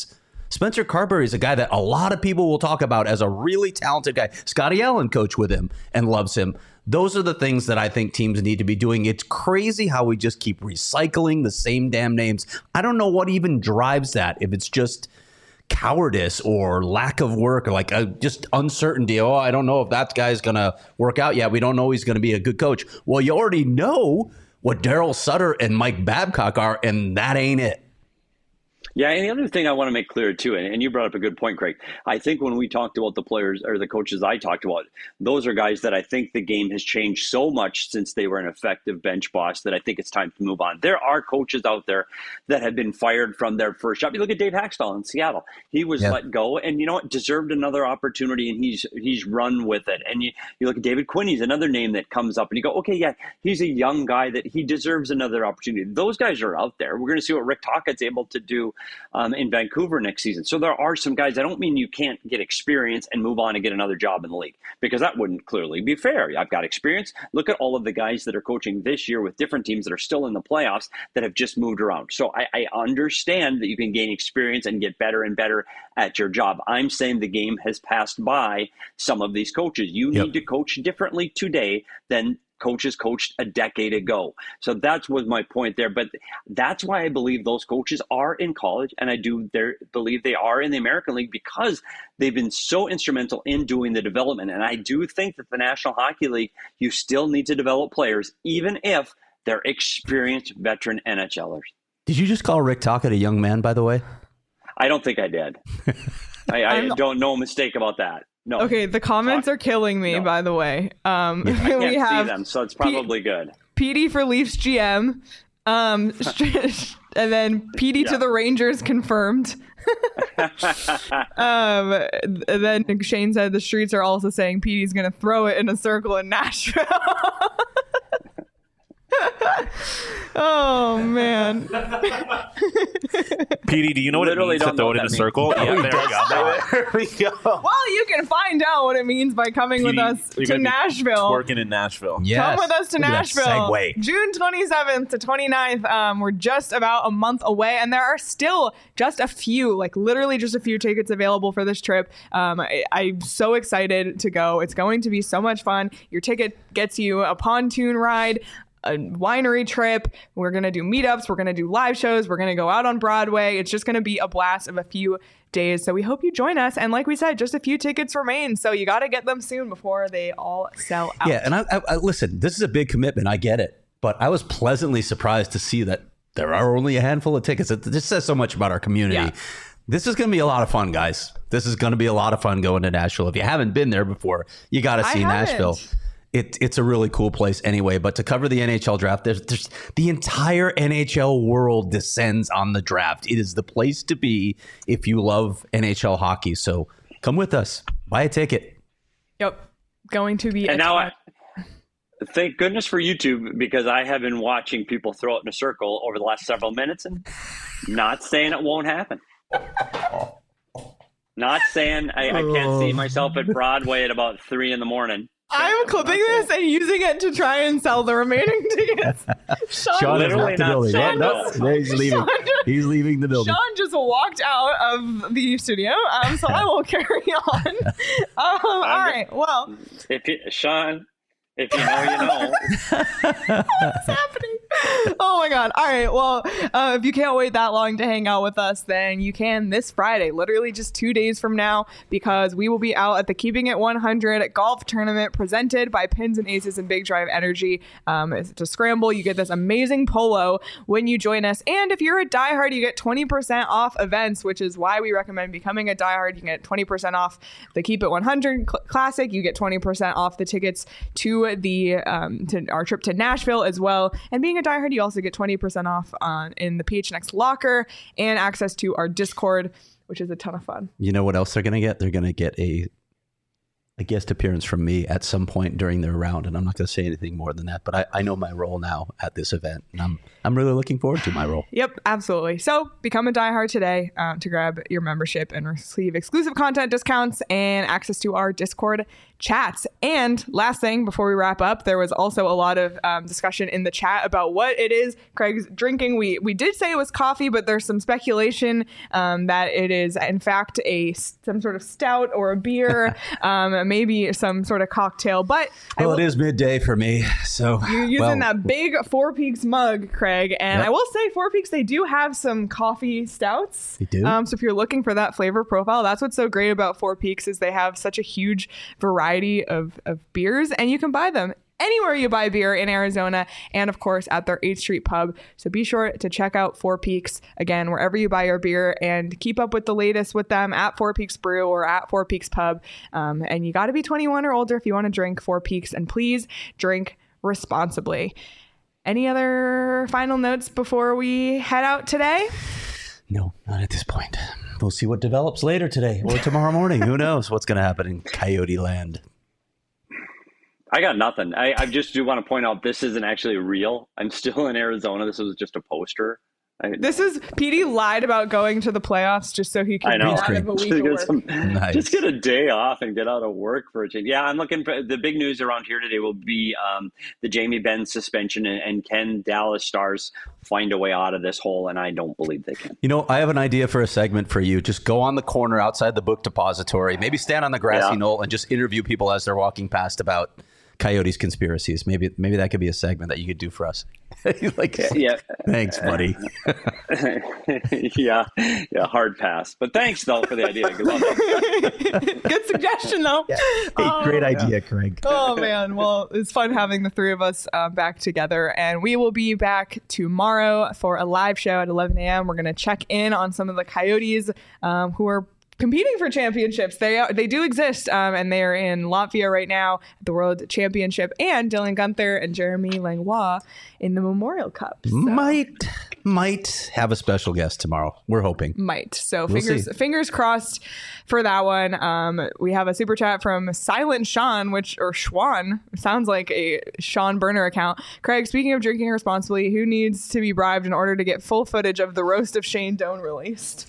Spencer Carberry is a guy that a lot of people will talk about as a really talented guy. Scotty Allen coached with him and loves him. Those are the things that I think teams need to be doing. It's crazy how we just keep recycling the same damn names. I don't know what even drives that. If it's just cowardice or lack of work or like just uncertainty. Oh, I don't know if that guy's going to work out yet. We don't know he's going to be a good coach. Well, you already know what Daryl Sutter and Mike Babcock are, and that ain't it. Yeah, and the other thing I want to make clear too, and you brought up a good point, Craig. I think when we talked about the players or the coaches I talked about, those are guys that I think the game has changed so much since they were an effective bench boss that I think it's time to move on. There are coaches out there that have been fired from their first job. You look at Dave Haxtell in Seattle. He was let go, and you know what? Deserved another opportunity, and he's run with it. And you look at David Quinn. He's another name that comes up, and you go, okay, yeah, he's a young guy that he deserves another opportunity. Those guys are out there. We're going to see what Rick Tocchet's able to do in Vancouver next season. So there are some guys. I don't mean you can't get experience and move on and get another job in the league, because that wouldn't clearly be fair. I've got experience. Look at all of the guys that are coaching this year with different teams that are still in the playoffs that have just moved around. So I understand that you can gain experience and get better and better at your job. I'm saying the game has passed by some of these coaches. You need to coach differently today than coaches coached a decade ago. So that was my point there. But that's why I believe those coaches are in college, and I do believe they are in the American League, because they've been so instrumental in doing the development. And I do think that the National Hockey League, you still need to develop players, even if they're experienced veteran NHLers. Did you just call Rick Tocchet a young man, by the way? I don't think I did. I don't know a mistake about that. No. Okay, the comments are killing me, by the way. I can't see them, so it's probably good. PD for Leafs GM. And then PD to the Rangers confirmed. And then Shane said the streets are also saying PD's going to throw it in a circle in Nashville. Oh, man. PD, do you know what it means to throw it in a circle? Yeah, there we go. There we go. Well, you can find out what it means by coming with us to Nashville. Working in Nashville. Yes. Come with us to Nashville. June 27th to 29th. We're just about a month away, and there are still just a few, like literally just a few tickets available for this trip. I'm so excited to go. It's going to be so much fun. Your ticket gets you a pontoon ride, a winery trip. We're going to do meetups. We're going to do live shows. We're going to go out on Broadway. It's just going to be a blast of a few days. So we hope you join us. And like we said, just a few tickets remain. So you got to get them soon before they all sell out. Yeah. And I listen, this is a big commitment. I get it. But I was pleasantly surprised to see that there are only a handful of tickets. It just says so much about our community. Yeah. This is going to be a lot of fun, guys. This is going to be a lot of fun going to Nashville. If you haven't been there before, you got to see Nashville. It's a really cool place anyway. But to cover the NHL draft, there's the entire NHL world descends on the draft. It is the place to be if you love NHL hockey. So come with us. Buy a ticket. Yep. Going to be. And now thank goodness for YouTube, because I have been watching people throw it in a circle over the last several minutes, and not saying it won't happen. Not saying I can't see myself at Broadway at about 3 a.m. I'm clipping this and using it to try and sell the remaining tickets. Sean literally not saying he's leaving. He's leaving the building. Sean just walked out of the studio, so I will carry on. All right. Well, Sean, if you know, you know. What's happening? Oh my God. All right. Well, if you can't wait that long to hang out with us, then you can this Friday, literally just 2 days from now, because we will be out at the Keeping It 100 golf tournament presented by Pins and Aces and Big Drive Energy. It's a scramble. You get this amazing polo when you join us. And if you're a diehard, you get 20% off events, which is why we recommend becoming a diehard. You can get 20% off the Keep It 100 Classic. You get 20% off the tickets to to our trip to Nashville as well. And being a diehard, you also get 20% off in the PHNX locker and access to our Discord, which is a ton of fun. You know what else they're going to get? They're going to get a guest appearance from me at some point during their round, and I'm not going to say anything more than that. But I know my role now at this event, and I'm really looking forward to my role. Yep, absolutely. So become a diehard today to grab your membership and receive exclusive content discounts and access to our Discord chats. And last thing before we wrap up, there was also a lot of discussion in the chat about what it is Craig's drinking. We did say it was coffee, but there's some speculation that it is in fact some sort of stout or a beer, maybe some sort of cocktail. But well, it is midday for me, so you're using that big Four Peaks mug, Craig. And Yep. I will say Four Peaks, they do have some coffee stouts. They do? So if you're looking for that flavor profile, that's what's so great about Four Peaks is they have such a huge variety of beers, and you can buy them anywhere you buy beer in Arizona, and of course at their 8th Street pub. So be sure to check out Four Peaks again wherever you buy your beer, and keep up with the latest with them at Four Peaks Brew or at Four Peaks Pub. And you got to be 21 or older if you want to drink Four Peaks, and please drink responsibly. Any other final notes before we head out today? No, not at this point. We'll see what develops later today or tomorrow morning. Who knows what's going to happen in Coyote Land? I got nothing. I just do want to point out this isn't actually real. I'm still in Arizona. This was just a poster. This is PD lied about going to the playoffs just so he could I know. get out of a week of work. Nice. Just get a day off and get out of work for a change. Yeah, I'm looking for the big news around here today will be the Jamie Benn suspension, and can Dallas Stars find a way out of this hole? And I don't believe they can. You know, I have an idea for a segment for you. Just go on the corner outside the book depository, maybe stand on the grassy knoll and just interview people as they're walking past about Coyotes conspiracies. Maybe that could be a segment that you could do for us. Like, Yeah. thanks, buddy. yeah, hard pass. But thanks though for the idea. Good luck. Good suggestion, though. Hey, great idea, Craig. Oh, man. Well, it's fun having the three of us back together. And we will be back tomorrow for a live show at 11 a.m. We're going to check in on some of the Coyotes who are competing for championships. They do exist, and they are in Latvia right now at the World Championship, and Dylan Guenther and Jeremy Langlois in the Memorial Cup. So. Might have a special guest tomorrow. We're hoping. So We'll fingers crossed for that one. We have a super chat from Silent Sean, or Schwan, sounds like a Sean Burner account. Craig, speaking of drinking responsibly, who needs to be bribed in order to get full footage of the roast of Shane Doan released?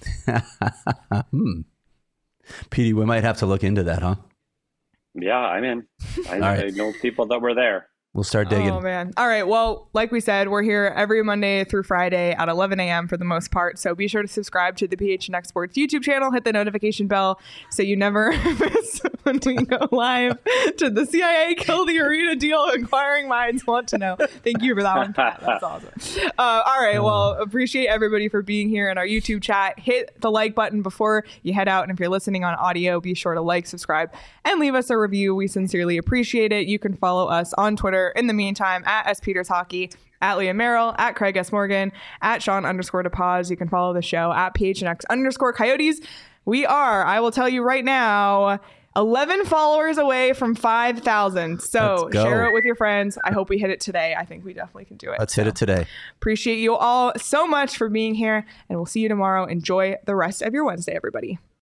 PD, we might have to look into that, huh? Yeah, I'm in. I right. know people that were there. We'll start digging. Oh, man. All right. Well, like we said, we're here every Monday through Friday at 11 a.m. for the most part. So be sure to subscribe to the PHNX Sports YouTube channel. Hit the notification bell so you never miss when we go live to the CIA Kill the Arena deal. Inquiring minds want to know. Thank you for that one, Pat. That's awesome. All right. Well, appreciate everybody for being here in our YouTube chat. Hit the like button before you head out. And if you're listening on audio, be sure to like, subscribe, and leave us a review. We sincerely appreciate it. You can follow us on Twitter in the meantime at SPetersHockey, at Liam Merrill, at Craig S. Morgan, at Sean_DePaz. You can follow the show at PHNX_Coyotes. We are, I will tell you right now, 11 followers away from 5,000. So Let's go. share it with your friends. I hope we hit it today. I think we definitely can do it. Let's hit it today. Appreciate you all so much for being here, and we'll see you tomorrow. Enjoy the rest of your Wednesday, everybody.